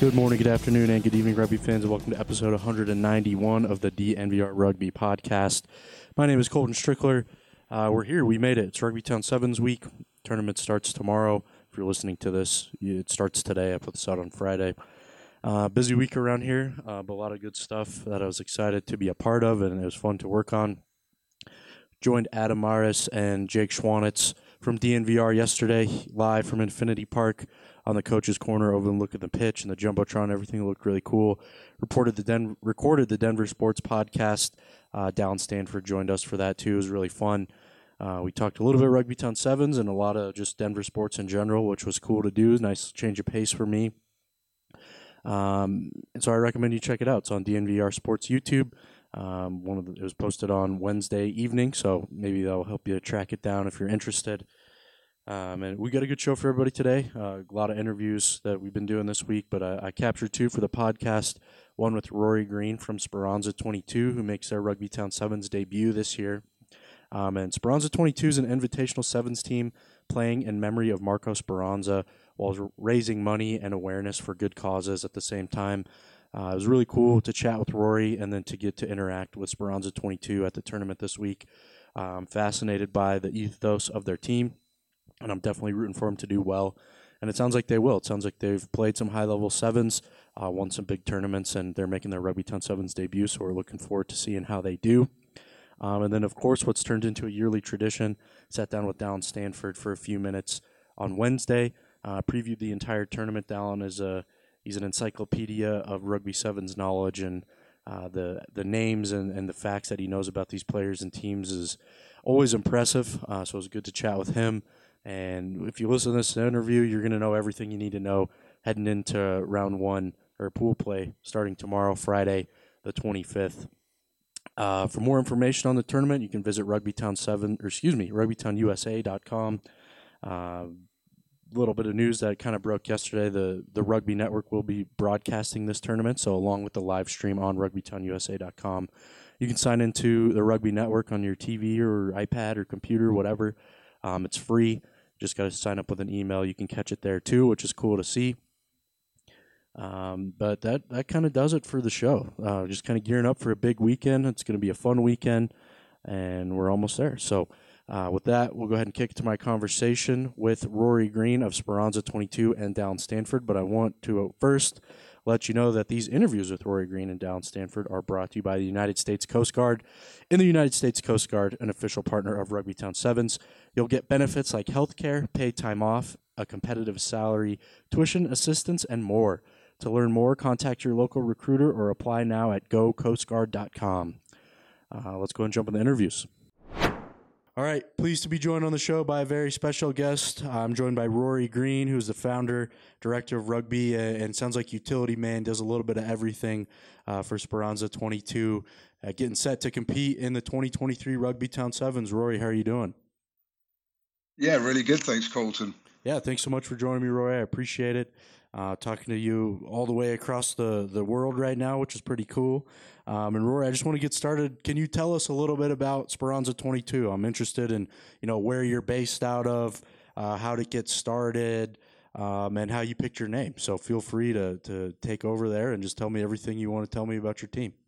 Good morning, good afternoon, and good evening, rugby fans, and welcome to episode 191 of the DNVR Rugby Podcast. My name is Colton Strickler. We're here. We made it. It's Rugby Town Sevens week. Tournament starts tomorrow. If you're listening to this, it starts today. I put this out on Friday. Busy week around here, but a lot of good stuff that I was excited to be a part of, and it was fun to work on. Joined Adam Maris and Jake Schwanitz from DNVR yesterday, live from Infinity Park on the coach's corner, over and look at the pitch and the Jumbotron. Everything looked really cool. Recorded the Denver Sports Podcast. Dallin Stanford joined us for that too. It was really fun. We talked a little bit Rugby Town Sevens and a lot of just Denver sports in general, which was cool to do. Nice change of pace for me. And so I recommend you check it out. It's on DNVR Sports YouTube. It was posted on Wednesday evening, so maybe that'll help you track it down if you're interested. And we got a good show for everybody today. A lot of interviews that we've been doing this week, but I captured two for the podcast. One with Rory Green from Speranza 22, who makes their Rugby Town Sevens debut this year. And Speranza 22 is an invitational sevens team playing in memory of Marco Speranza while raising money and awareness for good causes at the same time. It was really cool to chat with Rory and then to get to interact with Speranza 22 at the tournament this week. I'm fascinated by the ethos of their team, and I'm definitely rooting for them to do well. And it sounds like they will. It sounds like they've played some high-level sevens, won some big tournaments, and they're making their Rugby Town Sevens debut, so we're looking forward to seeing how they do. And then, of course, what's turned into a yearly tradition, sat down with Dallin Stanford for a few minutes on Wednesday, previewed the entire tournament. Dallin is he's an encyclopedia of Rugby Sevens knowledge, and the names and the facts that he knows about these players and teams is always impressive. So it was good to chat with him. And if you listen to this interview, you're going to know everything you need to know heading into round one or pool play starting tomorrow, Friday, the 25th. For more information on the tournament, you can visit RugbyTownUSA.com. Little bit of news that kind of broke yesterday. The Rugby Network will be broadcasting this tournament, so along with the live stream on RugbyTownUSA.com, you can sign into the Rugby Network on your TV or iPad or computer, whatever. It's free. Just got to sign up with an email. You can catch it there too, which is cool to see. But that kind of does it for the show. Just kind of gearing up for a big weekend. It's going to be a fun weekend, and we're almost there. So with that, we'll go ahead and kick it to my conversation with Rory Green of Speranza 22 and Dallin Stanford. But I want to first let you know that these interviews with Rory Green and Dallin Stanford are brought to you by the United States Coast Guard. In the United States Coast Guard, an official partner of Rugby Town Sevens, you'll get benefits like health care, paid time off, a competitive salary, tuition assistance, and more. To learn more, contact your local recruiter or apply now at gocoastguard.com. Let's go and jump in the interviews. All right, pleased to be joined on the show by a very special guest. I'm joined by Rory Green, who's the founder, director of rugby, and sounds like utility man, does a little bit of everything for Speranza 22, getting set to compete in the 2023 Rugby Town Sevens. Rory, how are you doing? Yeah, really good. Thanks, Colton. Yeah, thanks so much for joining me, Rory. I appreciate it. Talking to you all the way across the world right now, which is pretty cool. And Rory, I just want to get started. Can you tell us a little bit about Speranza 22? I'm interested in, where you're based out of, how to get started, and how you picked your name. So feel free to take over there and just tell me everything you want to tell me about your team.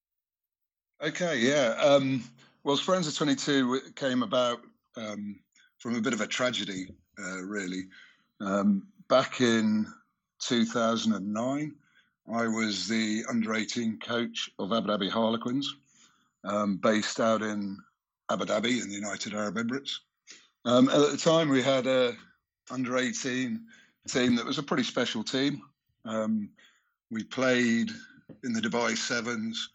Okay, yeah. Well, Speranza 22 came about from a bit of a tragedy, really. Back in 2009, I was the under-18 coach of Abu Dhabi Harlequins, based out in Abu Dhabi in the United Arab Emirates. At the time, we had a under-18 team that was a pretty special team. We played in the Dubai Sevens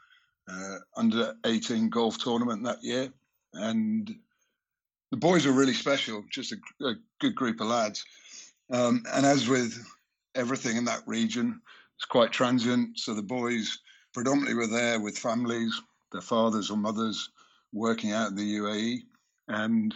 under-18 golf tournament that year, and the boys were really special, just a good group of lads. And as with everything in that region, it's quite transient. So the boys predominantly were there with families, their fathers or mothers working out in the UAE. And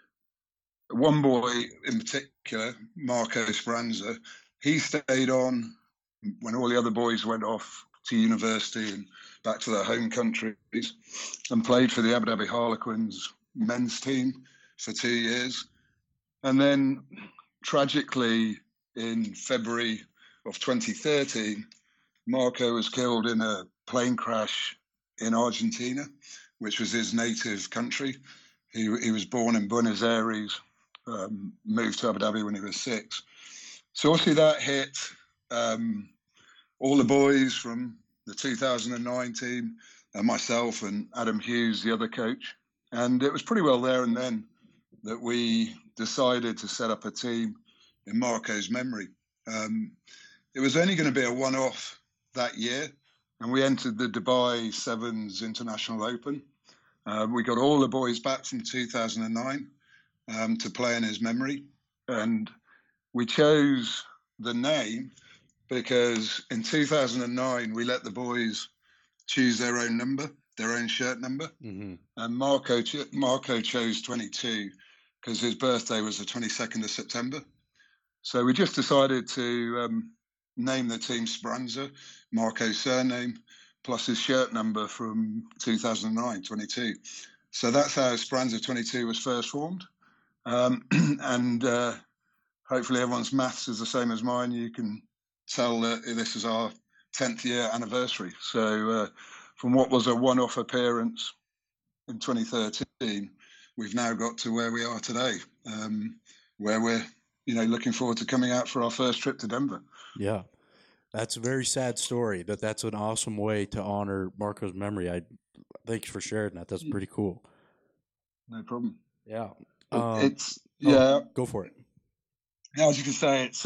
one boy in particular, Marco Speranza, he stayed on when all the other boys went off to university and back to their home countries, and played for the Abu Dhabi Harlequins men's team for 2 years. And then tragically in February of 2013, Marco was killed in a plane crash in Argentina, which was his native country. He was born in Buenos Aires, moved to Abu Dhabi when he was 6. So obviously that hit all the boys from the 2009 team, myself and Adam Hughes, the other coach. And it was pretty well there and then that we decided to set up a team in Marco's memory. It was only going to be a one-off that year, and we entered the Dubai Sevens International Open. We got all the boys back from 2009 to play in his memory, and we chose the name because in 2009 we let the boys choose their own number, their own shirt number, and Marco chose 22 because his birthday was the 22nd of September. So we just decided to name the team Speranza, Marco's surname, plus his shirt number from 2009, 22. So that's how Speranza 22 was first formed. And hopefully everyone's maths is the same as mine. You can tell that this is our 10th year anniversary. So from what was a one-off appearance in 2013, we've now got to where we are today, where we're looking forward to coming out for our first trip to Denver. Yeah, that's a very sad story, but that's an awesome way to honor Marco's memory. Thanks for sharing that. That's pretty cool. No problem. Yeah. Go for it. Yeah, as you can say, it's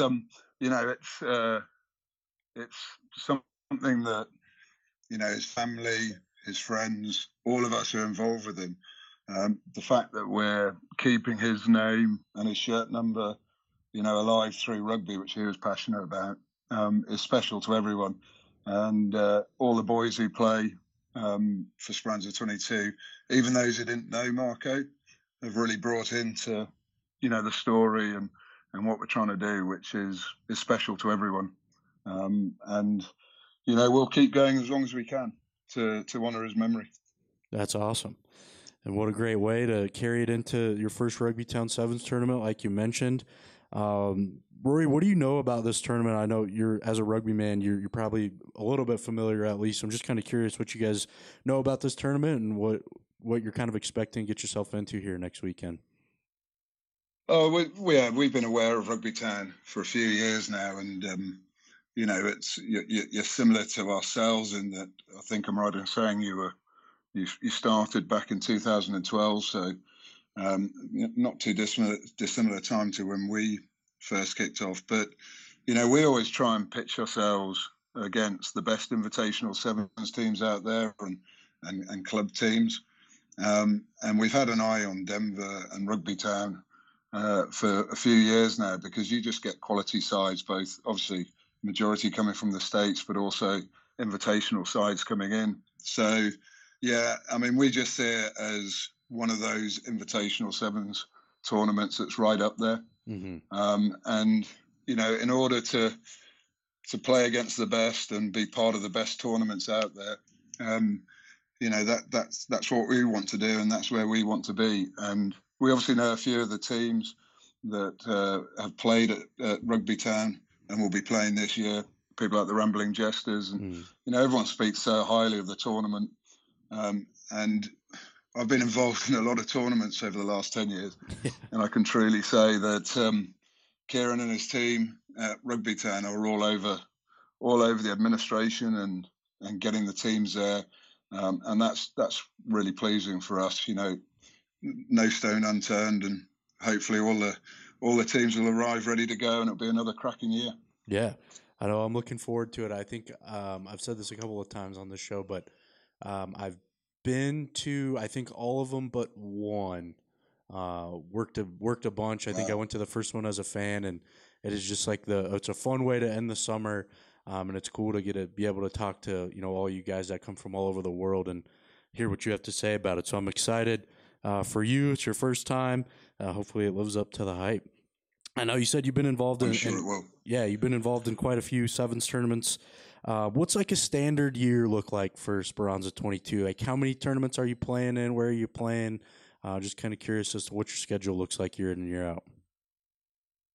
it's something that his family, his friends, all of us are involved with him. The fact that we're keeping his name and his shirt number, alive through rugby, which he was passionate about, is special to everyone. And all the boys who play for Speranza 22, even those who didn't know Marco, have really brought into, the story and what we're trying to do, which is special to everyone. And we'll keep going as long as we can to honour his memory. That's awesome. And what a great way to carry it into your first Rugby Town Sevens tournament, like you mentioned. Rory, what do you know about this tournament? I know as a rugby man, you're probably a little bit familiar at least. I'm just kind of curious what you guys know about this tournament and what you're kind of expecting to get yourself into here next weekend. Oh, we've been aware of Rugby Town for a few years now, and it's you're similar to ourselves in that I think I'm right in saying you started back in 2012, so not too dissimilar time to when we first kicked off. But we always try and pitch ourselves against the best invitational sevens teams out there and club teams, and we've had an eye on Denver and Rugby Town for a few years now, because you just get quality sides, both obviously majority coming from the States, but also invitational sides coming in. So yeah, I mean, we just see it as one of those invitational sevens tournaments that's right up there. And in order to play against the best and be part of the best tournaments out there, that's what we want to do, and that's where we want to be. And we obviously know a few of the teams that have played at Rugby Town and will be playing this year. People like the Rambling Jesters, and everyone speaks so highly of the tournament. And I've been involved in a lot of tournaments over the last 10 years, and I can truly say that Kieran and his team at Rugby Town are all over the administration and getting the teams there, and that's really pleasing for us. No stone unturned, and hopefully all the teams will arrive ready to go, and it'll be another cracking year. Yeah, I know. I'm looking forward to it. I think I've said this a couple of times on this show, but I've been to, I think, all of them but one. Worked a bunch. I think I went to the first one as a fan, and it is just like it's a fun way to end the summer, and it's cool to be able to talk to all you guys that come from all over the world and hear what you have to say about it. So I'm excited for you. It's your first time. Hopefully it lives up to the hype. I know you said you've been involved I'm sure it will. Yeah, you've been involved in quite a few sevens tournaments. What's like a standard year look like for Speranza 22? Like, how many tournaments are you playing in? Where are you playing? Just kind of curious as to what your schedule looks like year in and year out.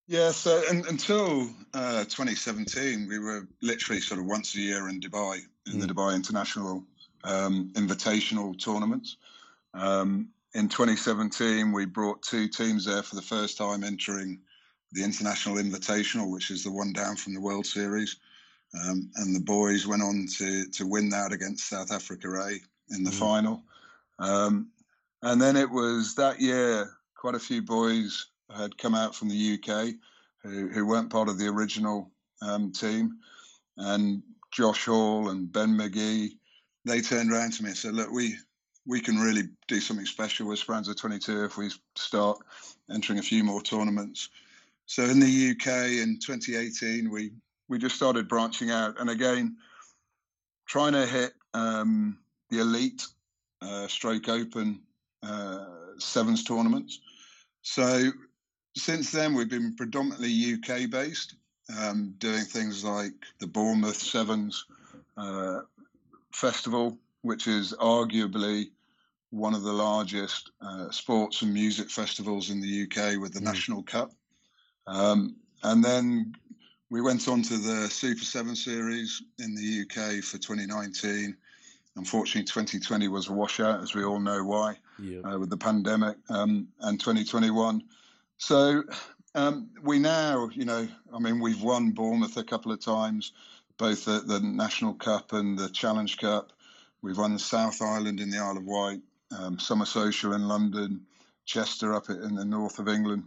Yeah, so until 2017, we were literally sort of once a year in Dubai, in the Dubai International Invitational tournaments. In 2017, we brought two teams there for the first time entering the International Invitational, which is the one down from the World Series. And the boys went on to win that against South Africa A in the final. And then it was that year, quite a few boys had come out from the UK who weren't part of the original team. And Josh Hall and Ben McGee, they turned around to me and said, look, we can really do something special with Speranza 22 if we start entering a few more tournaments. So in the UK in 2018, we just started branching out. And again, trying to hit the elite stroke open sevens tournaments. So since then, we've been predominantly UK based, doing things like the Bournemouth Sevens Festival, which is arguably one of the largest sports and music festivals in the UK with the National Cup. And then we went on to the Super 7 Series in the UK for 2019. Unfortunately, 2020 was a washout, as we all know why, with the pandemic, and 2021. So we now, we've won Bournemouth a couple of times, both at the National Cup and the Challenge Cup. We've won South Island in the Isle of Wight, Summer Social in London, Chester up in the north of England.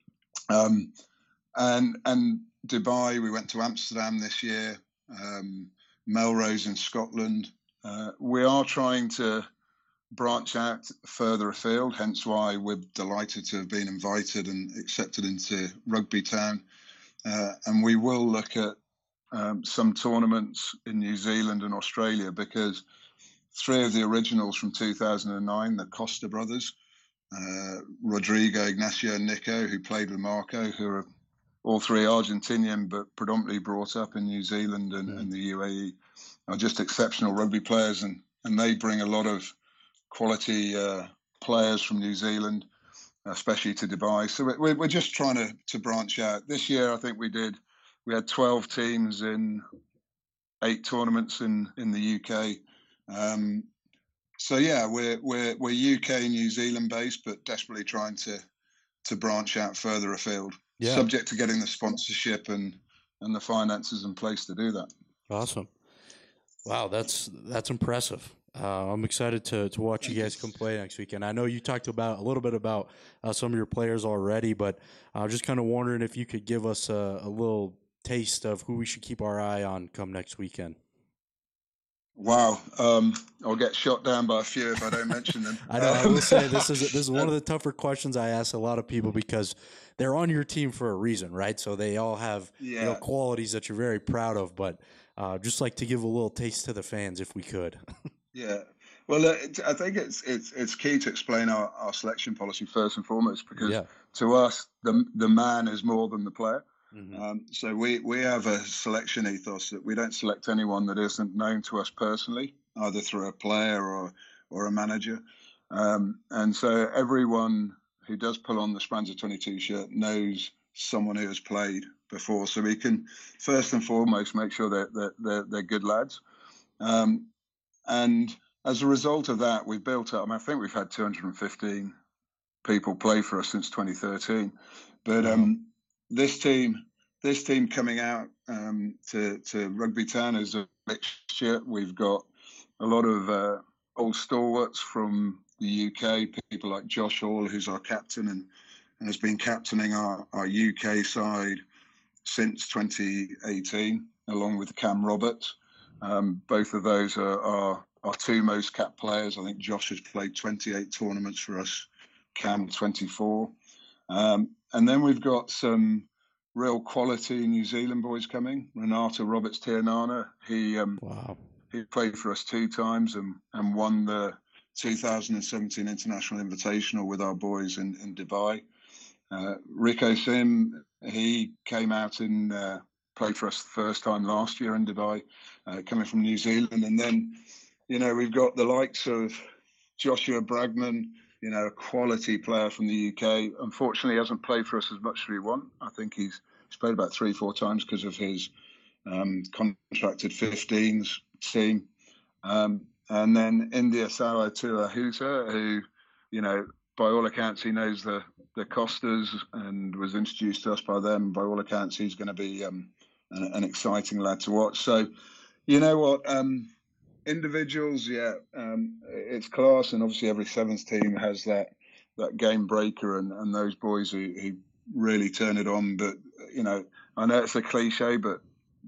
And Dubai, we went to Amsterdam this year, Melrose in Scotland. We are trying to branch out further afield, hence why we're delighted to have been invited and accepted into Rugby Town. And we will look at some tournaments in New Zealand and Australia, because three of the originals from 2009, the Costa brothers, Rodrigo, Ignacio, and Nico, who played with Marco, who are all three Argentinian, but predominantly brought up in New Zealand and the UAE, are just exceptional rugby players, and they bring a lot of quality players from New Zealand, especially to Dubai. So we're just trying to branch out. This year, I think we had 12 teams in 8 tournaments in the UK. So yeah, we're UK and New Zealand based, but desperately trying to branch out further afield. Yeah. Subject to getting the sponsorship and the finances in place to do that. Awesome. Wow, that's impressive. I'm excited to watch you guys come play next weekend. I know you talked about a little bit about some of your players already, but I was just kind of wondering if you could give us a little taste of who we should keep our eye on come next weekend. Wow, I'll get shot down by a few if I don't mention them. I know. I will say this is one of the tougher questions I ask a lot of people, because they're on your team for a reason, right? So they all have qualities that you're very proud of, but just like to give a little taste to the fans if we could. Yeah. Well, I think it's key to explain our selection policy first and foremost, because to us, the man is more than the player. Mm-hmm. So we have a selection ethos that we don't select anyone that isn't known to us personally, either through a player or a manager. And so everyone who does pull on the Speranza 22 shirt knows someone who has played before. So we can first and foremost make sure that they're good lads. And as a result of that, we've built up, I think we've had 215 people play for us since 2013. But this team coming out to Rugby Town is a mixture. We've got a lot of old stalwarts from the UK, people like Josh Hall, who's our captain and has been captaining our UK side since 2018, along with Cam Roberts. Both of those are our two most capped players. I think Josh has played 28 tournaments for us, Cam 24. And then we've got some real quality New Zealand boys coming. Renato Roberts Tianana, he played for us 2 times and won the 2017 International Invitational with our boys in Dubai. Rico Sim, he came out and played for us the first time last year in Dubai, coming from New Zealand. And then, we've got the likes of Joshua Bragman, a quality player from the UK. Unfortunately, he hasn't played for us as much as we want. I think he's played about 3-4 times because of his contracted 15s team. And then India Salah Tuahuta, who, by all accounts, he knows the Costas and was introduced to us by them. By all accounts, he's going to be an exciting lad to watch. So, you know what? Individuals, it's class, and obviously every Sevens team has that game breaker and those boys who really turn it on. But I know it's a cliche, but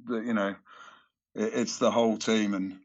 it's the whole team, and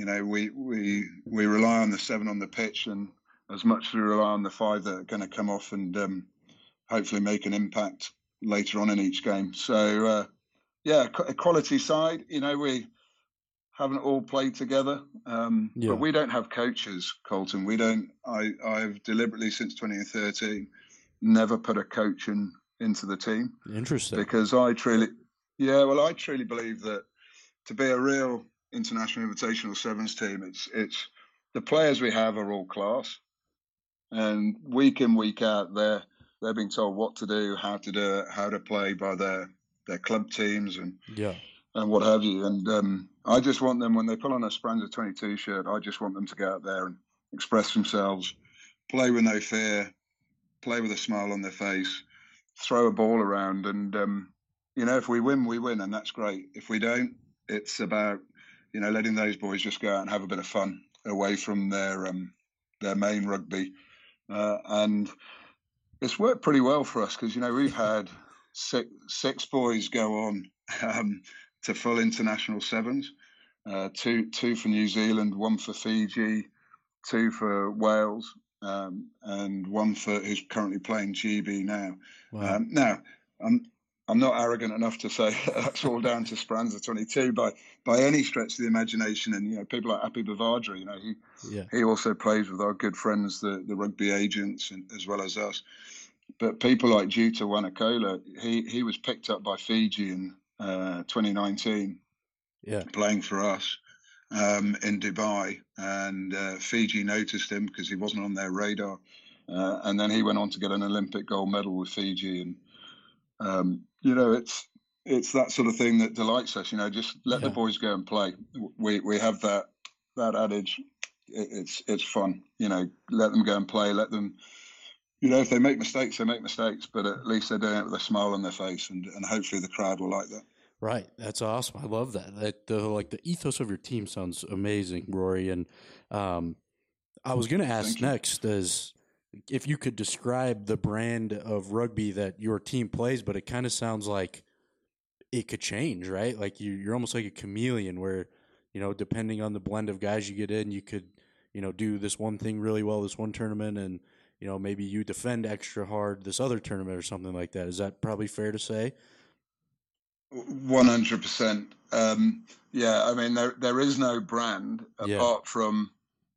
we rely on the 7 on the pitch, and as much as we rely on the 5 that are going to come off and hopefully make an impact later on in each game. So quality side, we haven't all played together, but we don't have coaches, Colton. We don't. I've deliberately since 2013 never put a coach into the team. Interesting, because I truly believe that to be a real international invitational Sevens team, it's the players we have are all class, and week in, week out, they're being told what to do, how to do it, how to play by their club teams and what have you. And I just want them, when they put on a Speranza 22 shirt, I just want them to go out there and express themselves, play with no fear, play with a smile on their face, throw a ball around, and if we win, we win, and that's great. If we don't, it's about letting those boys just go out and have a bit of fun away from their main rugby, and it's worked pretty well for us because we've had six boys go on to full international Sevens, two for New Zealand, 1 for Fiji, 2 for Wales, and 1 for who's currently playing GB now. Wow. Now, I'm not arrogant enough to say that's all down to Speranza 22 by any stretch of the imagination. And people like Happy Bavadra, he also plays with our good friends, the rugby agents, as well as us. But people like Juta Wanakola, he was picked up by Fiji in 2019, playing for us in Dubai, and Fiji noticed him because he wasn't on their radar, and then he went on to get an Olympic gold medal with Fiji. And it's that sort of thing that delights us. Just let the boys go and play. We have that adage. It's fun. Let them go and play. Let them. If they make mistakes, they make mistakes, but at least they're doing it with a smile on their face, and hopefully the crowd will like that. Right, that's awesome. I love that. The ethos of your team sounds amazing, Rory. And I was going to ask next is if you could describe the brand of rugby that your team plays, but it kind of sounds like it could change, right? Like you're almost like a chameleon, where depending on the blend of guys you get in, you could do this one thing really well this one tournament, and maybe you defend extra hard this other tournament or something like that. Is that probably fair to say? 100%. I mean, there is no brand apart from,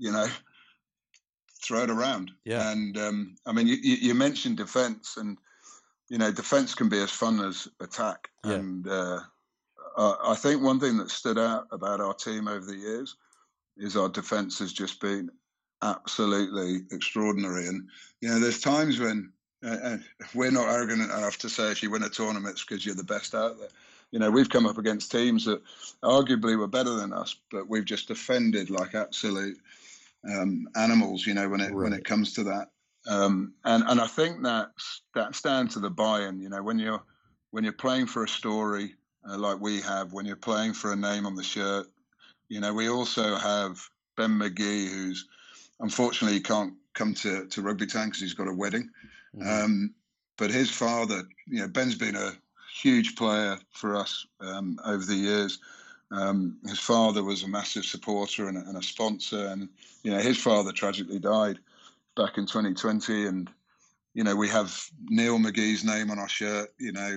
throw it around. Yeah. And I mean, you mentioned defense, and, defense can be as fun as attack. Yeah. And I think one thing that stood out about our team over the years is our defense has just been absolutely extraordinary. And, there's times when we're not arrogant enough to say if you win a tournament it's because you're the best out there. We've come up against teams that arguably were better than us, but we've just defended like absolute animals, when it comes to that. And I think that's down to the buy-in. When you're playing for a story like we have, when you're playing for a name on the shirt, we also have Ben McGee, who's unfortunately can't come to Rugby Town because he's got a wedding. Mm-hmm. But his father, Ben's been a huge player for us over the years. His father was a massive supporter and a sponsor, and his father tragically died back in 2020. And we have Neil McGee's name on our shirt.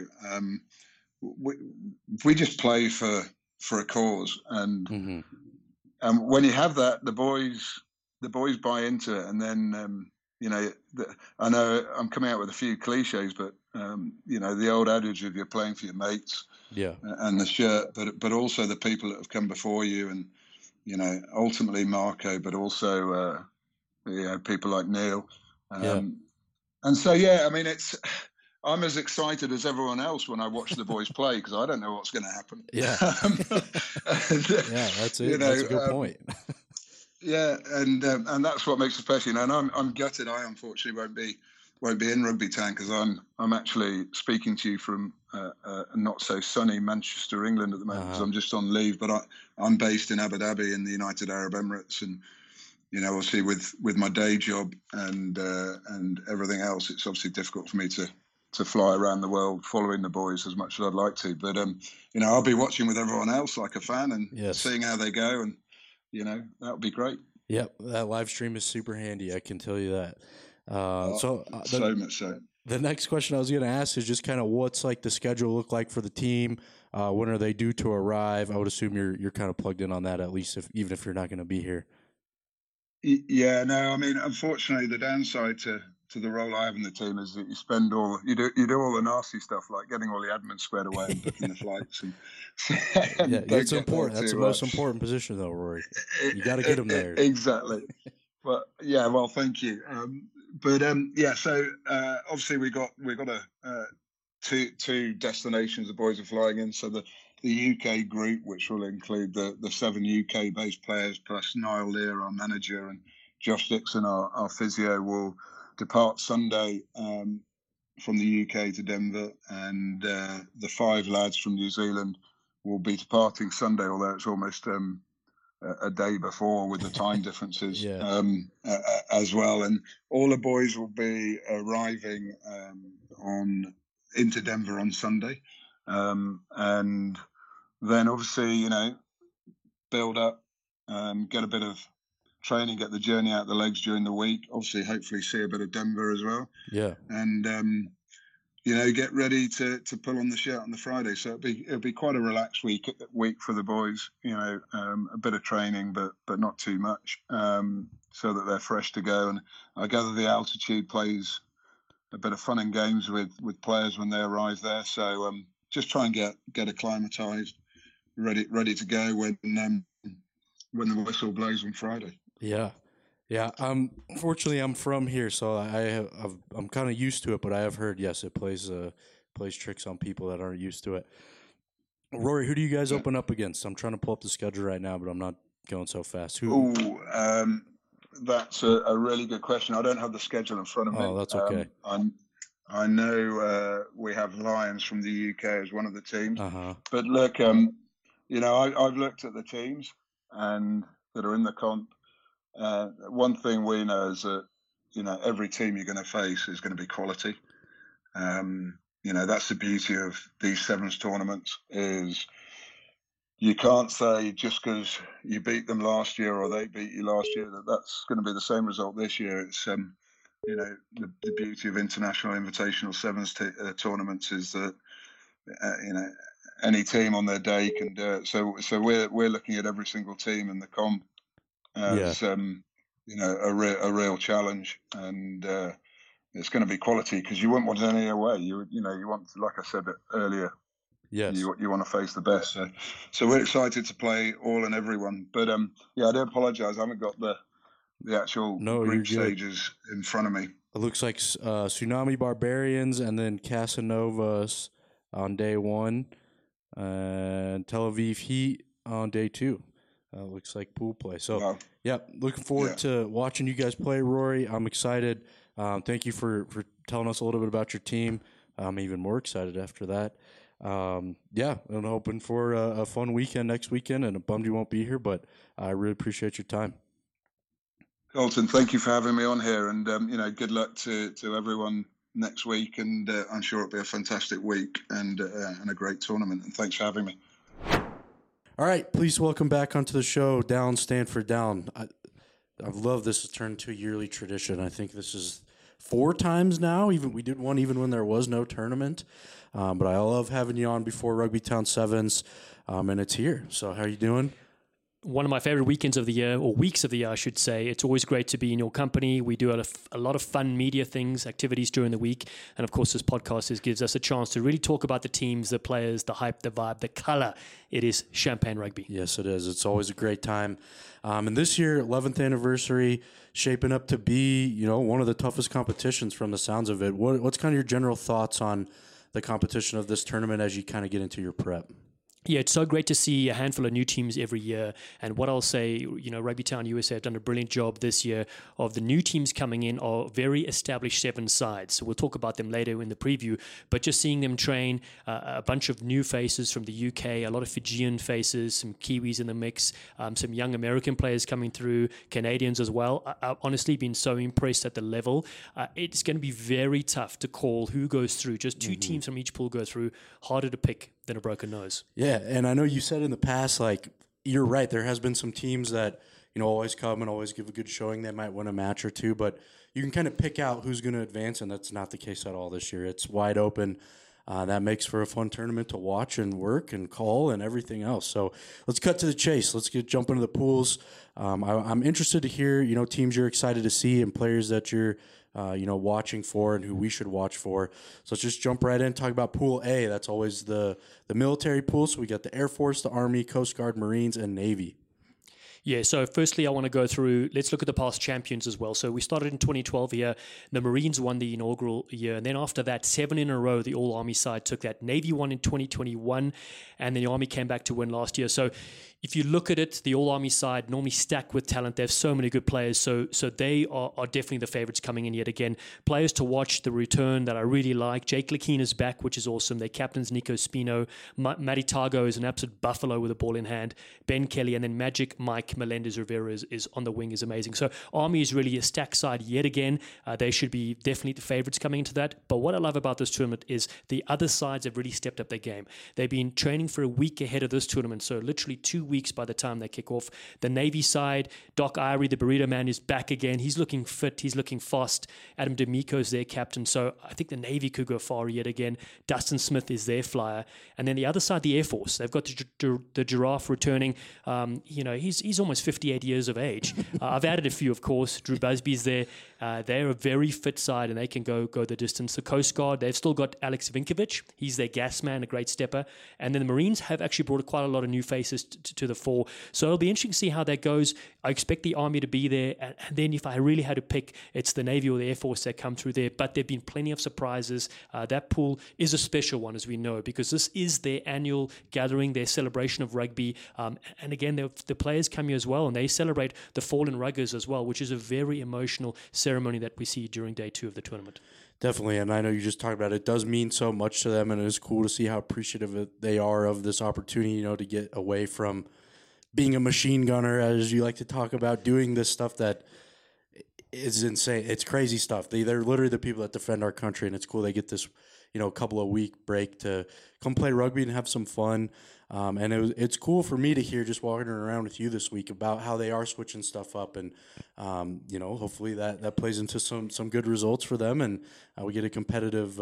We just play for a cause, and mm-hmm. And when you have that, the boys buy into it, and then I know I'm coming out with a few cliches, but the old adage of you're playing for your mates, and the shirt, but also the people that have come before you, and ultimately Marco, but also people like Neil. Yeah. And so, yeah, I mean, I'm as excited as everyone else when I watch the boys play because I don't know what's going to happen. Yeah. And, Yeah, that's you it. know, That's a good point. yeah, and that's what makes it special. And I'm gutted. I unfortunately won't be in Rugby Town because I'm actually speaking to you from not so sunny Manchester, England at the moment because I'm just on leave. But I'm based in Abu Dhabi in the United Arab Emirates, and obviously with my day job and everything else, it's obviously difficult for me to fly around the world following the boys as much as I'd like to. But I'll be watching with everyone else like a fan and seeing how they go, and that would be great. Yep, that live stream is super handy. I can tell you that. So much so. The next question I was going to ask is just kind of what's like the schedule look like for the team? When are they due to arrive? I would assume you're kind of plugged in on that, at least even if you're not going to be here. Yeah, no, I mean, unfortunately, the downside to the role I have in the team is that you do all the nasty stuff like getting all the admin squared away and booking the flights. And it's important. That's the most important position, though, Rory. You got to get them there. Exactly. Well, yeah. Well, thank you. So obviously we got two destinations the boys are flying in. So the UK group, which will include the 7 UK based players plus Niall Lear, our manager, and Josh Dixon, our physio, will depart Sunday from the UK to Denver, and the 5 lads from New Zealand will be departing Sunday, although it's almost a day before with the time differences as well. And all the boys will be arriving into Denver on Sunday, and then obviously build up, get a bit of training, get the journey out the legs during the week. Obviously, hopefully see a bit of Denver as well. Yeah, and get ready to pull on the shirt on the Friday. So it'll be quite a relaxed week for the boys. A bit of training, but not too much, so that they're fresh to go. And I gather the altitude plays a bit of fun and games with players when they arrive there. So just try and get acclimatized, ready to go when the whistle blows on Friday. Yeah. Fortunately, I'm from here, so I'm kind of used to it. But I have heard, yes, it plays tricks on people that aren't used to it. Rory, who do you guys open up against? I'm trying to pull up the schedule right now, but I'm not going so fast. Who? That's a really good question. I don't have the schedule in front of me. Oh, that's okay. I know we have Lions from the UK as one of the teams. But look, I've looked at the teams and that are in the comp. One thing we know is that every team you're going to face is going to be quality. That's the beauty of these sevens tournaments is you can't say just because you beat them last year or they beat you last year that's going to be the same result this year. It's the beauty of international invitational sevens tournaments is that any team on their day can do it. So we're looking at every single team in the comp as a real challenge, and it's going to be quality because you wouldn't want any away. You want, like I said earlier, yes, you want to face the best. So we're excited to play all and everyone. But I do apologise. I haven't got the actual group stages in front of me. It looks like Tsunami Barbarians and then Casanovas on day 1, and Tel Aviv Heat on day 2. Looks like pool play. So, looking forward to watching you guys play, Rory. I'm excited. Thank you for telling us a little bit about your team. I'm even more excited after that. I'm hoping for a fun weekend next weekend, and I'm bummed you won't be here, but I really appreciate your time. Colton, thank you for having me on here, and good luck to everyone next week, and I'm sure it'll be a fantastic week and a great tournament, and thanks for having me. All right, please welcome back onto the show, Down Stanford Down. I've loved this. It's turned into a yearly tradition. I think this is 4 times now. We did one even when there was no tournament. But I love having you on before Rugby Town Sevens, and it's here. So how are you doing? one of my favorite weekends of the year, or weeks of the year, I should say. It's always great to be in your company. We do a lot of fun media things, activities during the week. And of course, this podcast gives us a chance to really talk about the teams, the players, the hype, the vibe, the color. It is Champagne Rugby. Yes, it is. It's always a great time. And this year, 11th anniversary, shaping up to be, one of the toughest competitions from the sounds of it. What's kind of your general thoughts on the competition of this tournament as you kind of get into your prep? Yeah, it's so great to see a handful of new teams every year. And what I'll say, Rugby Town USA have done a brilliant job this year of the new teams coming in are very established 7 sides. So we'll talk about them later in the preview. But just seeing them train, a bunch of new faces from the UK, a lot of Fijian faces, some Kiwis in the mix, some young American players coming through, Canadians as well. I've honestly been so impressed at the level. It's going to be very tough to call who goes through. Just 2 teams from each pool go through. Harder to pick than a broken nose. Yeah, and I know you said in the past, you're right, there has been some teams that, always come and always give a good showing. They might win a match or two, but you can kind of pick out who's going to advance, and that's not the case at all this year. It's wide open. That makes for a fun tournament to watch and work and call and everything else. So let's cut to the chase. Let's jump into the pools. I'm interested to hear, teams you're excited to see and players that you're watching for and who we should watch for. So let's just jump right in, talk about Pool A. That's always the military pool. So we got the Air Force, the Army, Coast Guard, Marines, and Navy. Yeah, so firstly, I want to go through, let's look at the past champions as well. So we started in 2012 here. The Marines won the inaugural year. And then after that, 7 in a row, the All-Army side took that. Navy won in 2021, and then the Army came back to win last year. So if you look at it, the All-Army side normally stacked with talent. They have so many good players. So they are definitely the favorites coming in yet again. Players to watch, the return that I really like. Jake Lakeen is back, which is awesome. Their captain's Nico Spino. Matty Tago is an absolute buffalo with a ball in hand. Ben Kelly, and then Magic Mike Melendez-Rivera is on the wing, is amazing. So Army is really a stack side yet again. They should be definitely the favorites coming into that. But what I love about this tournament is the other sides have really stepped up their game. They've been training for a week ahead of this tournament. So literally 2 weeks by the time they kick off. The Navy side, Doc Irie, the burrito man, is back again. He's looking fit. He's looking fast. Adam D'Amico is their captain. So I think the Navy could go far yet again. Dustin Smith is their flyer. And then the other side, the Air Force. They've got the Giraffe returning. He's almost 58 years of age. I've added a few, of course. Drew Busby's there. They're a very fit side, and they can go the distance. The Coast Guard, they've still got Alex Vinkovic. He's their gas man, a great stepper. And then the Marines have actually brought quite a lot of new faces to the fore. So it'll be interesting to see how that goes. I expect the Army to be there. And then if I really had to pick, it's the Navy or the Air Force that come through there. But there have been plenty of surprises. That pool is a special one, as we know, because this is their annual gathering, their celebration of rugby. And again, the players come here as well, and they celebrate the fallen ruggers as well, which is a very emotional ceremony that we see during day 2 of the tournament. Definitely, and I know you just talked about it. It does mean so much to them, and it is cool to see how appreciative they are of this opportunity, to get away from being a machine gunner, as you like to talk about, doing this stuff that is insane. It's crazy stuff. They're literally the people that defend our country, and it's cool they get this, couple of week break to come play rugby and have some fun. And it's cool for me to hear just walking around with you this week about how they are switching stuff up, and hopefully that plays into some good results for them, and we get a competitive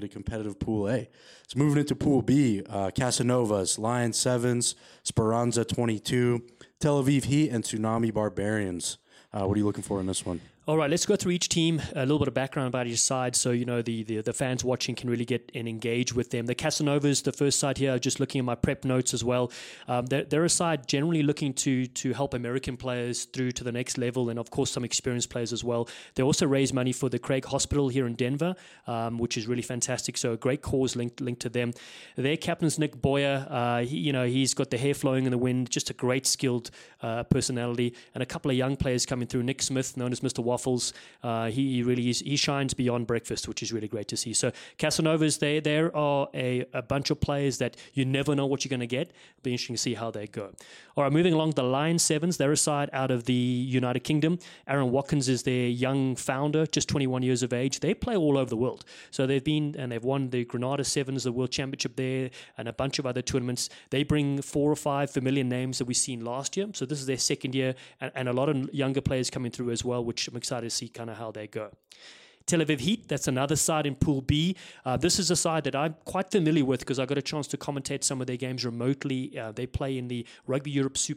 Pool A. So moving into Pool B, Casanovas, Lions Sevens, Speranza 22, Tel Aviv Heat, and Tsunami Barbarians. What are you looking for in this one? All right, let's go through each team, a little bit of background about each side, so the fans watching can really get and engage with them. The Casanovas, the first side here, just looking at my prep notes as well. They're a side generally looking to help American players through to the next level, and of course some experienced players as well. They also raise money for the Craig Hospital here in Denver, which is really fantastic. So a great cause linked to them. Their captain's Nick Boyer. He's got the hair flowing in the wind, just a great skilled personality, and a couple of young players coming through. Nick Smith, known as Mr. Waffles, he really is. He shines beyond breakfast, which is really great to see. So Casanovas, there are a bunch of players that you never know what you're going to get. It'll be interesting to see how they go. All right, moving along, the Lions Sevens, they're a side out of the United Kingdom. Aaron Watkins is their young founder, just 21 years of age. They play all over the world. So they've won the Grenada Sevens, the World Championship there, and a bunch of other tournaments. They bring 4 or 5 familiar names that we've seen last year. So this is their second year, and a lot of younger players coming through as well, which I'm excited to see kind of how they go. Tel Aviv Heat, that's another side in Pool B. This is a side that I'm quite familiar with because I got a chance to commentate some of their games remotely. They play in the Rugby Europe Super Cup.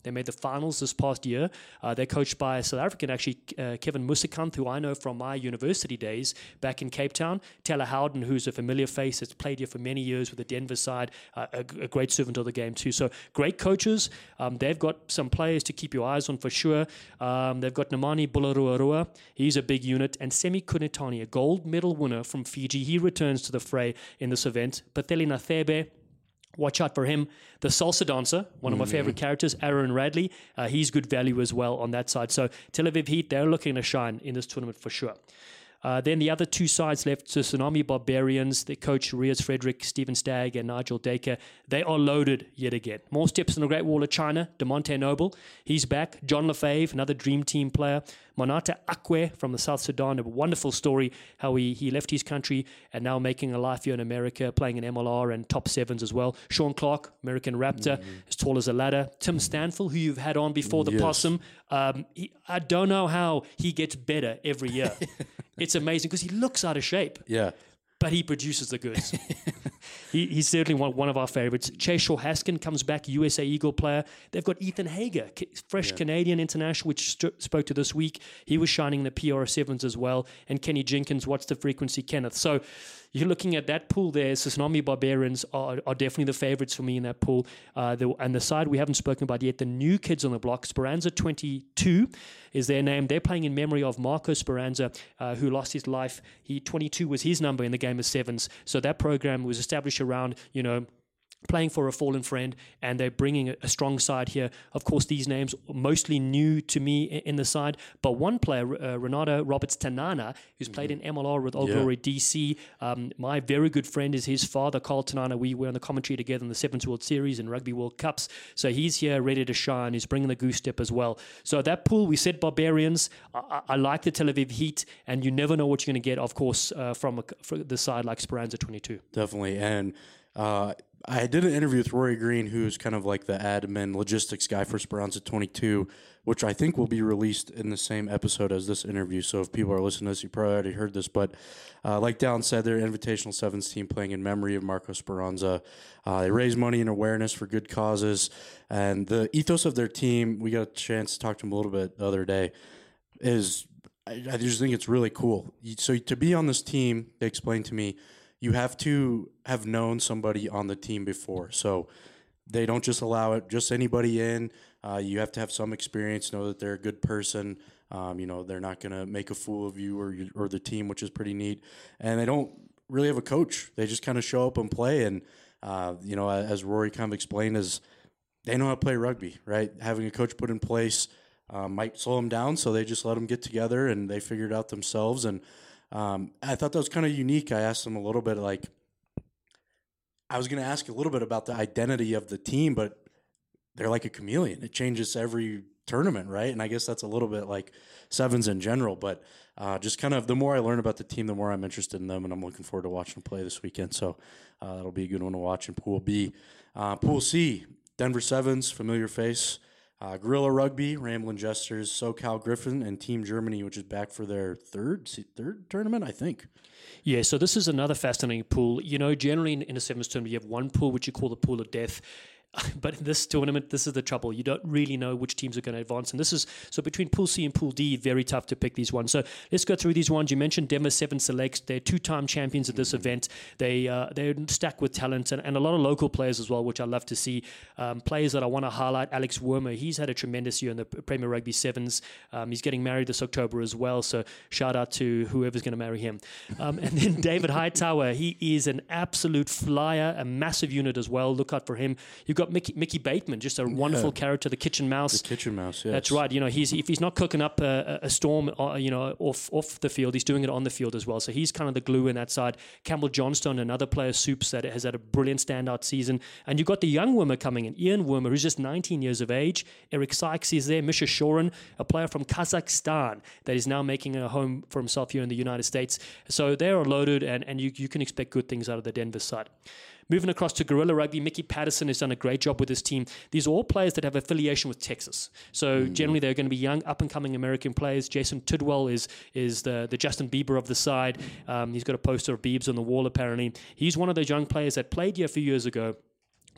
They made the finals this past year. They're coached by a South African, actually, Kevin Musikant, who I know from my university days back in Cape Town. Taylor Howden, who's a familiar face, has played here for many years with the Denver side, a great servant of the game too. So great coaches. They've got some players to keep your eyes on for sure. They've got Nemani Bularuarua. He's a big unit. And Semi Kunitani, a gold medal winner from Fiji. He returns to the fray in this event. Pateli Nathebe, watch out for him. The salsa dancer, one of my favorite characters, Aaron Radley. He's good value as well on that side. So Tel Aviv Heat, they're looking to shine in this tournament for sure. Then the other two sides left, so Tsunami Barbarians, the coach Riaz Frederick, Stephen Stagg, and Nigel Dacre, they are loaded yet again. More steps in the Great Wall of China. DeMonte Noble, he's back. John Lefebvre, another dream team player. Monata Akwe from the South Sudan, a wonderful story how he left his country and now making a life here in America, playing in MLR and top sevens as well. Sean Clark, American Raptor, as tall as a ladder. Tim Stanfill, who you've had on before, the Possum. I don't know how he gets better every year. It's amazing because he looks out of shape. Yeah. But he produces the goods. He's certainly one of our favorites. Chase Shaw Haskin comes back, USA Eagle player. They've got Ethan Hager, fresh Canadian international, which spoke to this week. He was shining in the PR7s as well. And Kenny Jenkins, What's the Frequency, Kenneth. So you're looking at that pool there. Tsunami Barbarians are definitely the favorites for me in that pool. And the side we haven't spoken about yet, the new kids on the block, Speranza 22 is their name. They're playing in memory of Marco Speranza, who lost his life. 22 was his number in the game of sevens. So that program was established around, playing for a fallen friend, and they're bringing a strong side here. Of course, these names are mostly new to me in the side, but one player, Renato Roberts Tanana, who's played in MLR with Old Glory DC. My very good friend is his father, Carl Tanana. We were on the commentary together in the Sevens World Series and Rugby World Cups, so he's here ready to shine. He's bringing the goose step as well. So that pool, we said Barbarians. I like the Tel Aviv Heat, and you never know what you're going to get, of course, from the side like Speranza 22. Definitely, and I did an interview with Rory Green, who's kind of like the admin logistics guy for Speranza 22, which I think will be released in the same episode as this interview. So if people are listening to this, you probably already heard this. But like Dallin said, they're an Invitational Sevens team playing in memory of Marco Speranza. They raise money and awareness for good causes. And the ethos of their team, we got a chance to talk to them a little bit the other day, is I just think it's really cool. So to be on this team, they explained to me, you have to have known somebody on the team before. So they don't just allow just anybody in. You have to have some experience, know that they're a good person. They're not going to make a fool of you or the team, which is pretty neat. And they don't really have a coach. They just kind of show up and play. And, as Rory kind of explained, is they know how to play rugby, right? Having a coach put in place might slow them down, so they just let them get together and they figure it out themselves. And I thought that was kind of unique. I asked them a little bit, I was going to ask a little bit about the identity of the team, but they're like a chameleon. It changes every tournament, right? And I guess that's a little bit like sevens in general, but just kind of the more I learn about the team, the more I'm interested in them, and I'm looking forward to watching them play this weekend. So that'll be a good one to watch in Pool B. Pool C, Denver Sevens, familiar face. Gorilla Rugby, Ramblin' Jesters, SoCal Griffin, and Team Germany, which is back for their third tournament, I think. Yeah, so this is another fascinating pool. Generally in a sevens tournament, you have one pool, which you call the pool of death. But in this tournament, this is the trouble. You don't really know which teams are going to advance. And this is, so between Pool C and Pool D, very tough to pick these ones. So let's go through these ones. You mentioned Denver Sevens Selects. They're two-time champions at this event. They're stacked with talent and a lot of local players as well, which I love to see. Players that I want to highlight, Alex Wormer. He's had a tremendous year in the Premier Rugby Sevens. He's getting married this October as well. So shout out to whoever's going to marry him. And then David Hightower. He is an absolute flyer, a massive unit as well. Look out for him. You've got Mickey Bateman, just a wonderful character, the Kitchen Mouse. The Kitchen Mouse, yes. That's right. If he's not cooking up a storm, off the field, he's doing it on the field as well. So he's kind of the glue in that side. Campbell Johnstone, another player, Soups, that has had a brilliant standout season. And you've got the young Wormer coming in, Ian Wormer, who's just 19 years of age. Eric Sykes is there. Misha Shorin, a player from Kazakhstan that is now making a home for himself here in the United States. So they are loaded, and you can expect good things out of the Denver side. Moving across to Gorilla Rugby, Mickey Patterson has done a great job with his team. These are all players that have affiliation with Texas. So generally they're going to be young, up-and-coming American players. Jason Tidwell is the Justin Bieber of the side. He's got a poster of Biebs on the wall, apparently. He's one of those young players that played here a few years ago.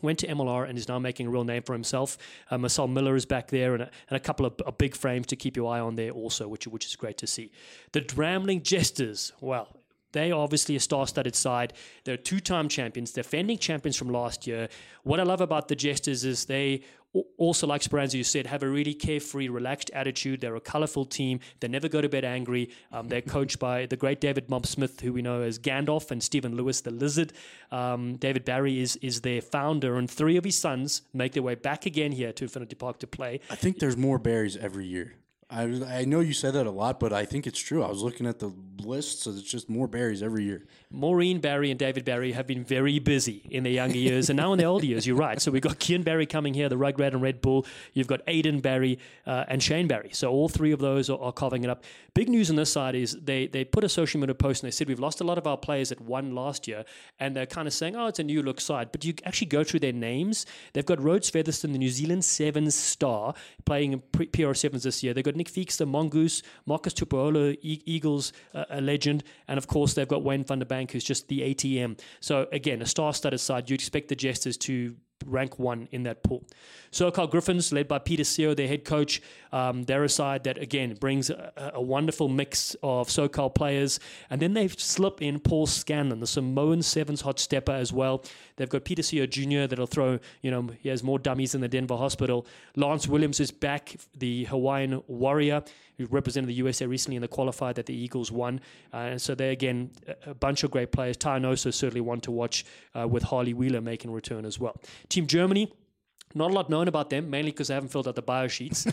went to MLR and is now making a real name for himself. Marcel Miller is back there, and a couple of big frames to keep your eye on there also, which is great to see. The Dramling Jesters, well, they are obviously a star-studded side. They're two-time champions, defending champions from last year. What I love about the Jesters is they also, like Speranza, you said, have a really carefree, relaxed attitude. They're a colourful team. They never go to bed angry. They're coached by the great David Mob Smith, who we know as Gandalf, and Stephen Lewis, the Lizard. David Barry is their founder, and 3 of his sons make their way back again here to Infinity Park to play. I think there's more Barrys every year. I know you said that a lot, but I think it's true. I was looking at the list, so it's just more Barrys every year. Maureen Barry and David Barry have been very busy in their younger years, and now in their older years, you're right. So we've got Kian Barry coming here, the Rugrat and Red Bull. You've got Aidan Barry and Shane Barry. So all 3 of those are carving it up. Big news on this side is they put a social media post, and they said, we've lost a lot of our players that won last year, and they're kind of saying, oh, it's a new look side. But you actually go through their names. They've got Rhodes Featherston, the New Zealand Sevens star, playing in PR Sevens this year. They've got Nick Feekster, Mongoose, Marcus Tupuola, Eagles, a legend, and of course they've got Wayne van der Bank, who's just the ATM. So again, a star-studded side. You expect the Jesters to rank 1 in that pool. SoCal Griffins, led by Peter Seo, their head coach. They're a side that, again, brings a wonderful mix of SoCal players. And then they slip in Paul Scanlon, the Samoan Sevens hot stepper as well. They've got Peter Seo Jr. that'll throw, he has more dummies than the Denver Hospital. Lance Williams is back, the Hawaiian Warrior, who represented the USA recently in the qualifier that the Eagles won. And so they're, again, a bunch of great players. Tyanoso certainly one to watch, with Harley Wheeler making a return as well. Team Germany, not a lot known about them, mainly because they haven't filled out the bio sheets.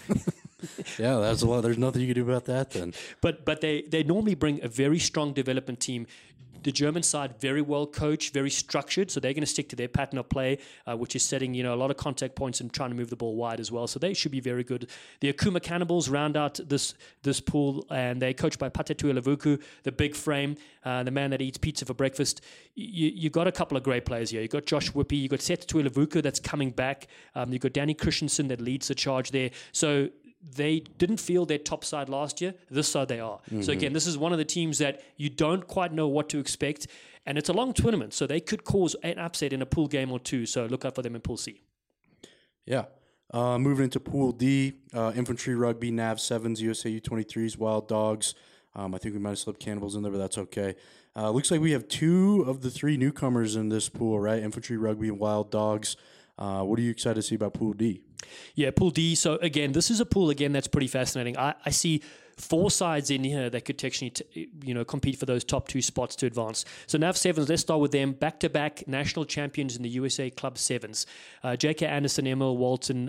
Yeah, that's a lot. There's nothing you can do about that then. But they normally bring a very strong development team. The German side, very well coached, very structured, so they're going to stick to their pattern of play, which is setting a lot of contact points and trying to move the ball wide as well. So they should be very good. The Akuma Cannibals round out this pool, and they're coached by Patetu Lavuku, the big frame, the man that eats pizza for breakfast. You got a couple of great players here. You got Josh Whippy, you got Seth Tuilavuku that's coming back. You got Danny Christensen that leads the charge there. So they didn't feel their top side last year. This side they are. Mm-hmm. So again, this is one of the teams that you don't quite know what to expect. And it's a long tournament, so they could cause an upset in a pool game or 2. So look out for them in Pool C. Yeah. Moving into Pool D, Infantry Rugby, NAV 7s, USA U23s, Wild Dogs. I think we might have slipped Cannibals in there, but that's okay. Looks like we have 2 of the 3 newcomers in this pool, right? Infantry Rugby and Wild Dogs. What are you excited to see about Pool D? Yeah, Pool D. So again, this is a pool that's pretty fascinating. I see 4 sides in here that could technically, compete for those top 2 spots to advance. So NAV Sevens, let's start with them. Back-to-back national champions in the USA Club Sevens. J.K. Anderson, Emil Walton,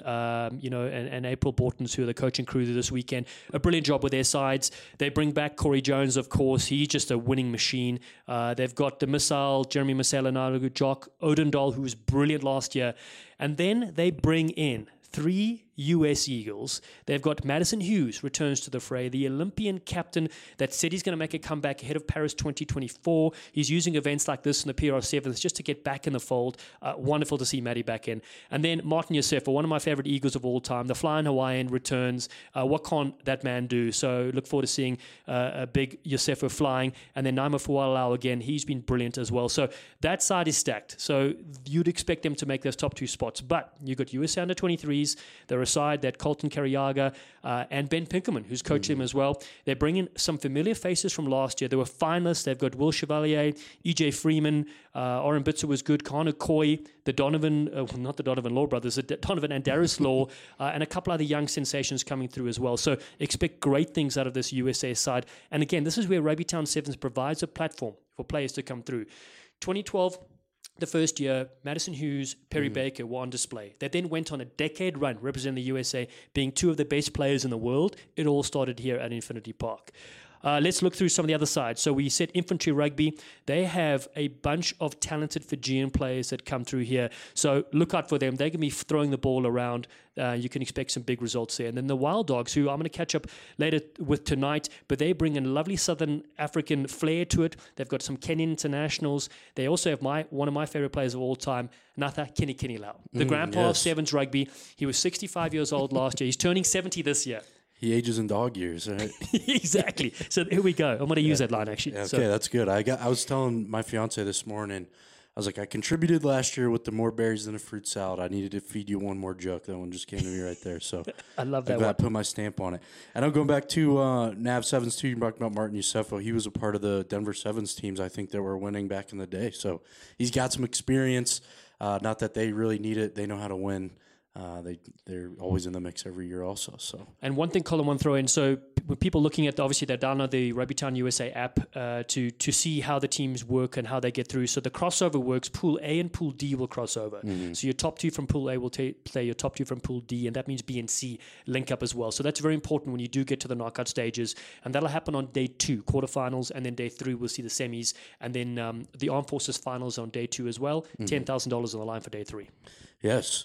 and April Bortons, who are the coaching crew this weekend. A brilliant job with their sides. They bring back Corey Jones, of course. He's just a winning machine. They've got the Missile, Jeremy Masela, Jock Odendahl, who was brilliant last year. And then they bring in 3 US Eagles. They've got Madison Hughes returns to the fray, the Olympian captain that said he's going to make a comeback ahead of Paris 2024. He's using events like this in the PR Sevens just to get back in the fold. Wonderful to see Maddie back in. And then Martin Yosefa, one of my favorite Eagles of all time, the Flying Hawaiian returns. What can't that man do? So look forward to seeing a big Yosefa flying. And then Naima Fualau again, he's been brilliant as well. So that side is stacked. So you'd expect them to make those top 2 spots. But you've got USA under 23s. They're a side that Colton Kariaga and Ben Pinkerman, who's coached them as well. They're bringing some familiar faces from last year. They were finalists. They've got Will Chevalier, EJ Freeman, Oren Bitzer was good, Connor Coy, the Donovan, not the Donovan Law brothers, the Donovan and Darius Law, and a couple other young sensations coming through as well. So expect great things out of this USA side. And again, this is where Rugby Town Sevens provides a platform for players to come through. 2012, the first year, Madison Hughes, Perry Baker were on display. They then went on a decade run representing the USA, being 2 of the best players in the world. It all started here at Infinity Park. Let's look through some of the other sides. So we said Infantry Rugby. They have a bunch of talented Fijian players that come through here. So look out for them. They're going to be throwing the ball around. You can expect some big results there. And then the Wild Dogs, who I'm going to catch up later with tonight, but they bring a lovely Southern African flair to it. They've got some Kenyan internationals. They also have one of my favorite players of all time, Natha Kinikinilao, the grandpa of Sevens Rugby. He was 65 years old last year. He's turning 70 this year. He ages in dog years, right? Exactly. So here we go. I'm going to use that line, actually. Yeah, okay, that's good. I was telling my fiance this morning, I was like, I contributed last year with the more berries than a fruit salad. I needed to feed you one more joke. That one just came to me right there. So I love that I one. put my stamp on it. And I'm going back to Nav Sevens too. You talked about Martin Yusefo. He was a part of the Denver Sevens teams, I think, that were winning back in the day. So he's got some experience. Not that they really need it. They know how to win. They're always in the mix every year also. So, and one thing, Colin, I want to throw in. So when people looking at obviously they download the Rugbytown USA app to see how the teams work and how they get through. So the crossover works. Pool A and Pool D will cross over. So your top two from Pool A will play your top two from Pool D, and that means B and C link up as well. So that's very important when you do get to the knockout stages, and that'll happen on day 2, quarterfinals, and then day 3 we'll see the semis, and then the Armed Forces finals on day 2 as well. $10,000 on the line for day 3. Yes.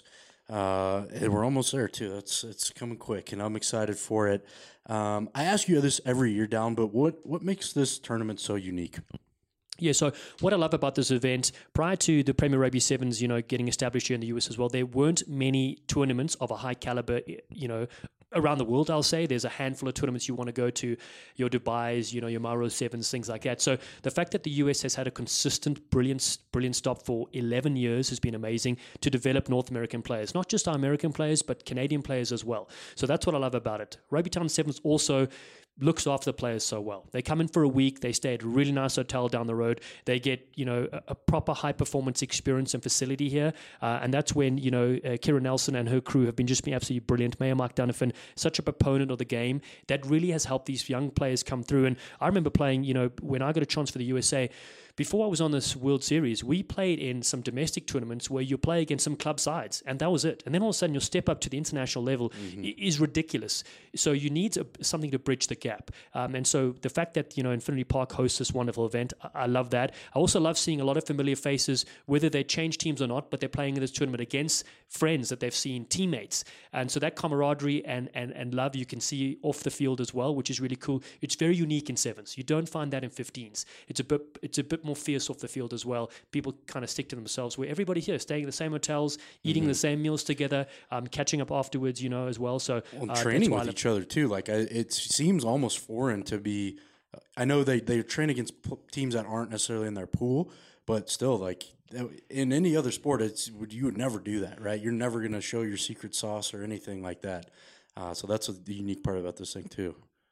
And we're almost there too. It's coming quick, and I'm excited for it. I ask you this every year, Down, but what makes this tournament so unique? Yeah, so what I love about this event, prior to the Premier Rugby Sevens, getting established here in the US as well, there weren't many tournaments of a high caliber, around the world. I'll say there's a handful of tournaments you want to go to, your Dubai's, your Mauro Sevens, things like that. So the fact that the US has had a consistent, brilliant stop for 11 years has been amazing to develop North American players, not just our American players, but Canadian players as well. So that's what I love about it. Rugbytown Sevens also looks after the players so well. They come in for a week, they stay at a really nice hotel down the road, they get a proper high performance experience and facility here, and that's when Kira Nelson and her crew have been absolutely brilliant. Mayor Mark Donovan, such a proponent of the game, that really has helped these young players come through. And I remember playing, when I got a chance for the USA, before I was on this World Series, we played in some domestic tournaments where you play against some club sides, and that was it. And then all of a sudden, your step up to the international level is ridiculous. So you need something to bridge the gap. And so the fact that Infinity Park hosts this wonderful event, I love that. I also love seeing a lot of familiar faces, whether they change teams or not, but they're playing in this tournament against friends that they've seen, teammates. And so that camaraderie and love you can see off the field as well, which is really cool. It's very unique in sevens. You don't find that in 15s. It's a bit more fierce off the field as well. People kind of stick to themselves, where everybody here staying in the same hotels, eating the same meals together, catching up afterwards, as well. So training with each other too. Like it seems almost foreign to be. I know they train against teams that aren't necessarily in their pool, but still, like in any other sport, you would never do that, right? You're never going to show your secret sauce or anything like that. So that's the unique part about this thing too.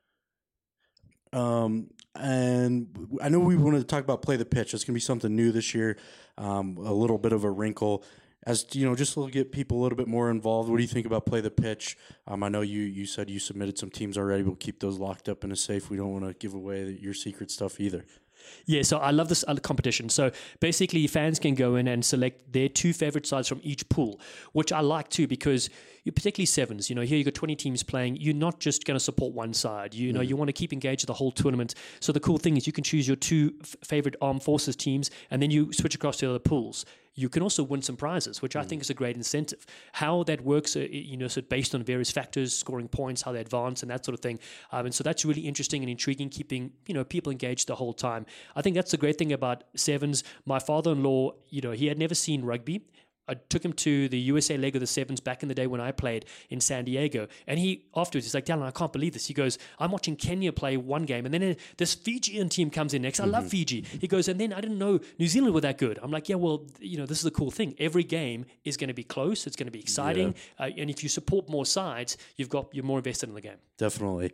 And I know we wanted to talk about Play the Pitch. It's going to be something new this year, a little bit of a wrinkle. As just to get people a little bit more involved, what do you think about Play the Pitch? I know you said you submitted some teams already. We'll keep those locked up in a safe. We don't want to give away your secret stuff either. Yeah, so I love this competition. So basically, fans can go in and select their 2 favorite sides from each pool, which I like too, because particularly sevens, here you've got 20 teams playing. You're not just going to support one side. You want to keep engaged the whole tournament. So the cool thing is you can choose your 2 favorite Armed Forces teams, and then you switch across to the other pools. You can also win some prizes, which I think is a great incentive. How that works, so based on various factors, scoring points, how they advance, and that sort of thing. And so that's really interesting and intriguing, keeping people engaged the whole time. I think that's the great thing about sevens. My father-in-law, he had never seen rugby. I took him to the USA leg of the sevens back in the day when I played in San Diego. And he's like, Dallin, I can't believe this. He goes, I'm watching Kenya play one game, and then this Fijian team comes in next. I love Fiji. He goes, and then I didn't know New Zealand were that good. I'm like, yeah, well, this is the cool thing. Every game is going to be close. It's going to be exciting. Yeah. And if you support more sides, you're more invested in the game. Definitely.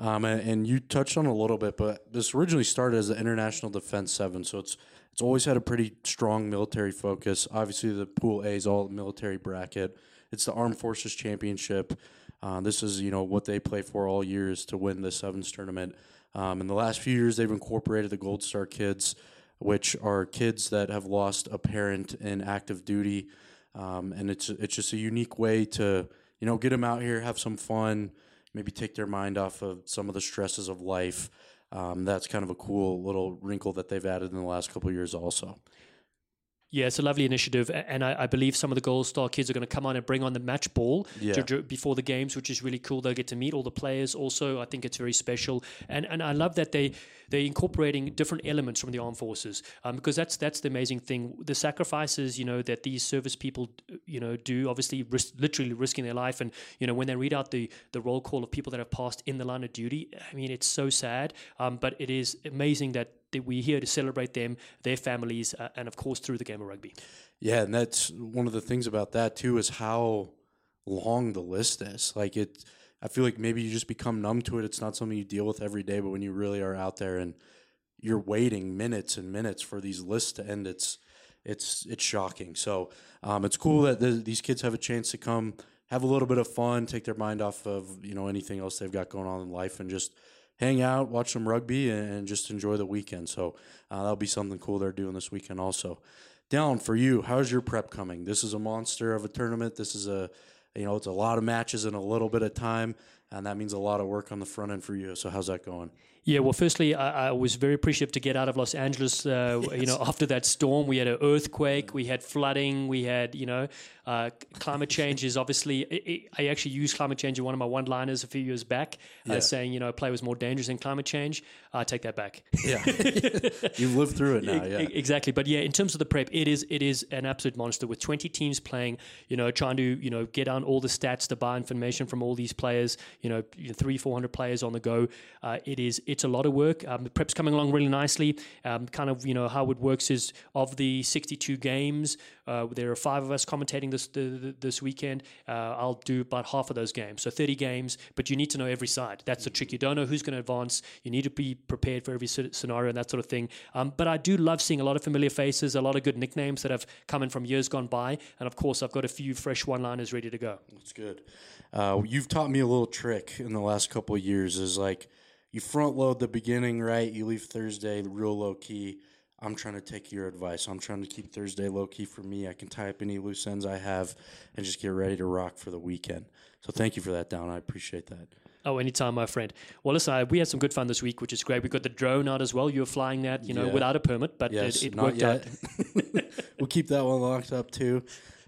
And you touched on it a little bit, but this originally started as the International Defense 7, so it's always had a pretty strong military focus. Obviously, the Pool A is all military bracket. It's the Armed Forces Championship. This is what they play for all years to win the sevens tournament. In the last few years, they've incorporated the Gold Star kids, which are kids that have lost a parent in active duty, and it's just a unique way to get them out here, have some fun, maybe take their mind off of some of the stresses of life. That's kind of a cool little wrinkle that they've added in the last couple of years also. Yeah, it's a lovely initiative, and I believe some of the Gold Star kids are going to come on and bring on the match ball before the games, which is really cool. They'll get to meet all the players also. I think it's very special, and I love that they're incorporating different elements from the armed forces, because that's the amazing thing. The sacrifices, that these service people, do, obviously literally risking their life, and when they read out the roll call of people that have passed in the line of duty, I mean, it's so sad, but it is amazing that we're here to celebrate them, their families, and of course through the game of rugby. Yeah, and that's one of the things about that too is how long the list is. Like I feel like maybe you just become numb to it. It's not something you deal with every day, but when you really are out there and you're waiting minutes and minutes for these lists to end, it's shocking. So it's cool that these kids have a chance to come have a little bit of fun, take their mind off of anything else they've got going on in life, and just hang out, watch some rugby, and just enjoy the weekend. So that'll be something cool they're doing this weekend also. Down for you, how's your prep coming? This is a monster of a tournament. This is it's a lot of matches in a little bit of time, and that means a lot of work on the front end for you. So how's that going? Yeah, well, firstly, I was very appreciative to get out of Los Angeles. Yes. After that storm, we had an earthquake, we had flooding, we had, climate change is obviously. I actually used climate change in one of my one-liners a few years back, saying, play was more dangerous than climate change. I take that back. Yeah, you've lived through it now. Yeah, exactly. But yeah, in terms of the prep, it is an absolute monster with 20 teams playing. Trying to get down all the stats to buy information from all these players. 300-400 players on the go. It's a lot of work. The prep's coming along really nicely. How it works is of the 62 games, there are 5 of us commentating this weekend. I'll do about half of those games, so 30 games. But you need to know every side. That's the trick. You don't know who's going to advance. You need to be prepared for every scenario and that sort of thing. But I do love seeing a lot of familiar faces, a lot of good nicknames that have come in from years gone by, and of course I've got a few fresh one-liners ready to go. That's good. You've taught me a little trick in the last couple of years. Is like, you front load the beginning, right? You leave Thursday real low key. I'm trying to take your advice. I'm trying to keep Thursday low key for me. I can tie up any loose ends I have and just get ready to rock for the weekend. So thank you for that, Down. I appreciate that. Oh, anytime, my friend. Well, listen, we had some good fun this week, which is great. We got the drone out as well. You were flying that, without a permit, but yes, it not worked yet. out. We'll keep that one locked up too.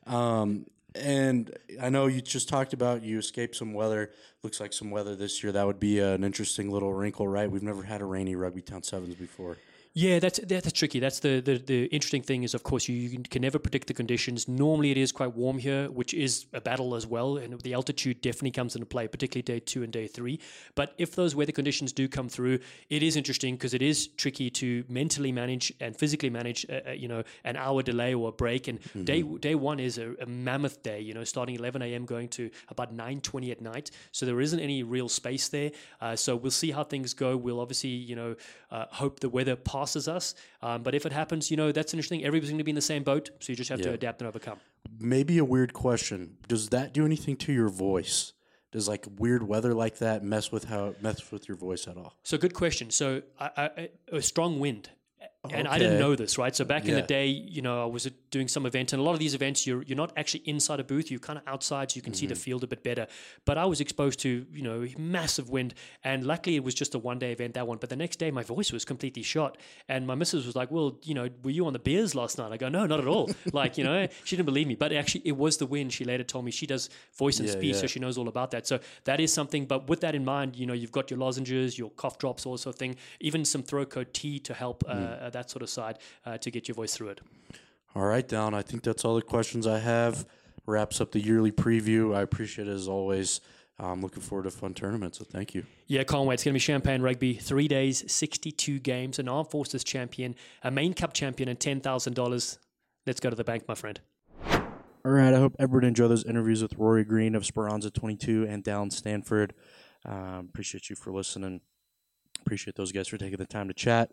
And I know you just talked about you escaped some weather. Looks like some weather this year. That would be an interesting little wrinkle, right? We've never had a rainy Rugby Town Sevens before. Yeah, that's tricky. That's the interesting thing is, of course, you can never predict the conditions. Normally, it is quite warm here, which is a battle as well, and the altitude definitely comes into play, particularly day 2 and day 3. But if those weather conditions do come through, it is interesting because it is tricky to mentally manage and physically manage, an hour delay or a break. And day 1 is a mammoth day, starting 11 a.m. going to about 9:20 at night. So there isn't any real space there. So we'll see how things go. We'll obviously, hope the weather passes us. But if it happens, that's interesting. Everybody's going to be in the same boat, so you just have to adapt and overcome. Maybe a weird question. Does that do anything to your voice? Does like weird weather like that mess with your voice at all? So good question. So a strong wind. And I didn't know this, right? So back in the day, I was doing some event, and a lot of these events, you're not actually inside a booth. You're kind of outside, so you can see the field a bit better. But I was exposed to, massive wind, and luckily it was just a one-day event, that one. But the next day, my voice was completely shot, and my missus was like, "Well, were you on the beers last night?" I go, "No, not at all." She didn't believe me, but actually it was the wind. She later told me she does voice and speech, so she knows all about that. So that is something. But with that in mind, you've got your lozenges, your cough drops, all sort of thing, even some throat coat tea to help. That sort of side to get your voice through it. All right, Down. I think that's all the questions I have. Wraps up the yearly preview. I appreciate it as always. I'm looking forward to a fun tournament, so thank you. Yeah, can't wait. It's going to be Champagne Rugby. 3 days, 62 games, an Armed Forces champion, a main cup champion, and $10,000. Let's go to the bank, my friend. All right, I hope everyone enjoyed those interviews with Rory Green of Speranza 22 and Dallin Stanford. Appreciate you for listening. Appreciate those guys for taking the time to chat.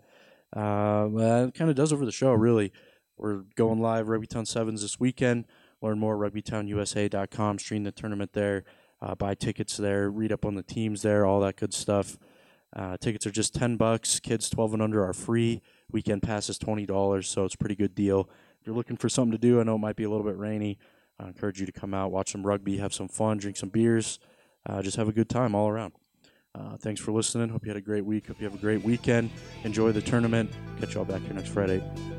That kind of does over the show, really. We're going live Rugby Town Sevens this weekend. Learn more at rugbytownusa.com. Stream the tournament there. Buy tickets there. Read up on the teams there. All that good stuff. Tickets are just $10. Kids 12 and under are free. Weekend pass is $20, so it's a pretty good deal. If you're looking for something to do, I know it might be a little bit rainy. I encourage you to come out, watch some rugby, have some fun, drink some beers. Just have a good time all around. Thanks for listening. Hope you had a great week. Hope you have a great weekend. Enjoy the tournament. Catch y'all back here next Friday.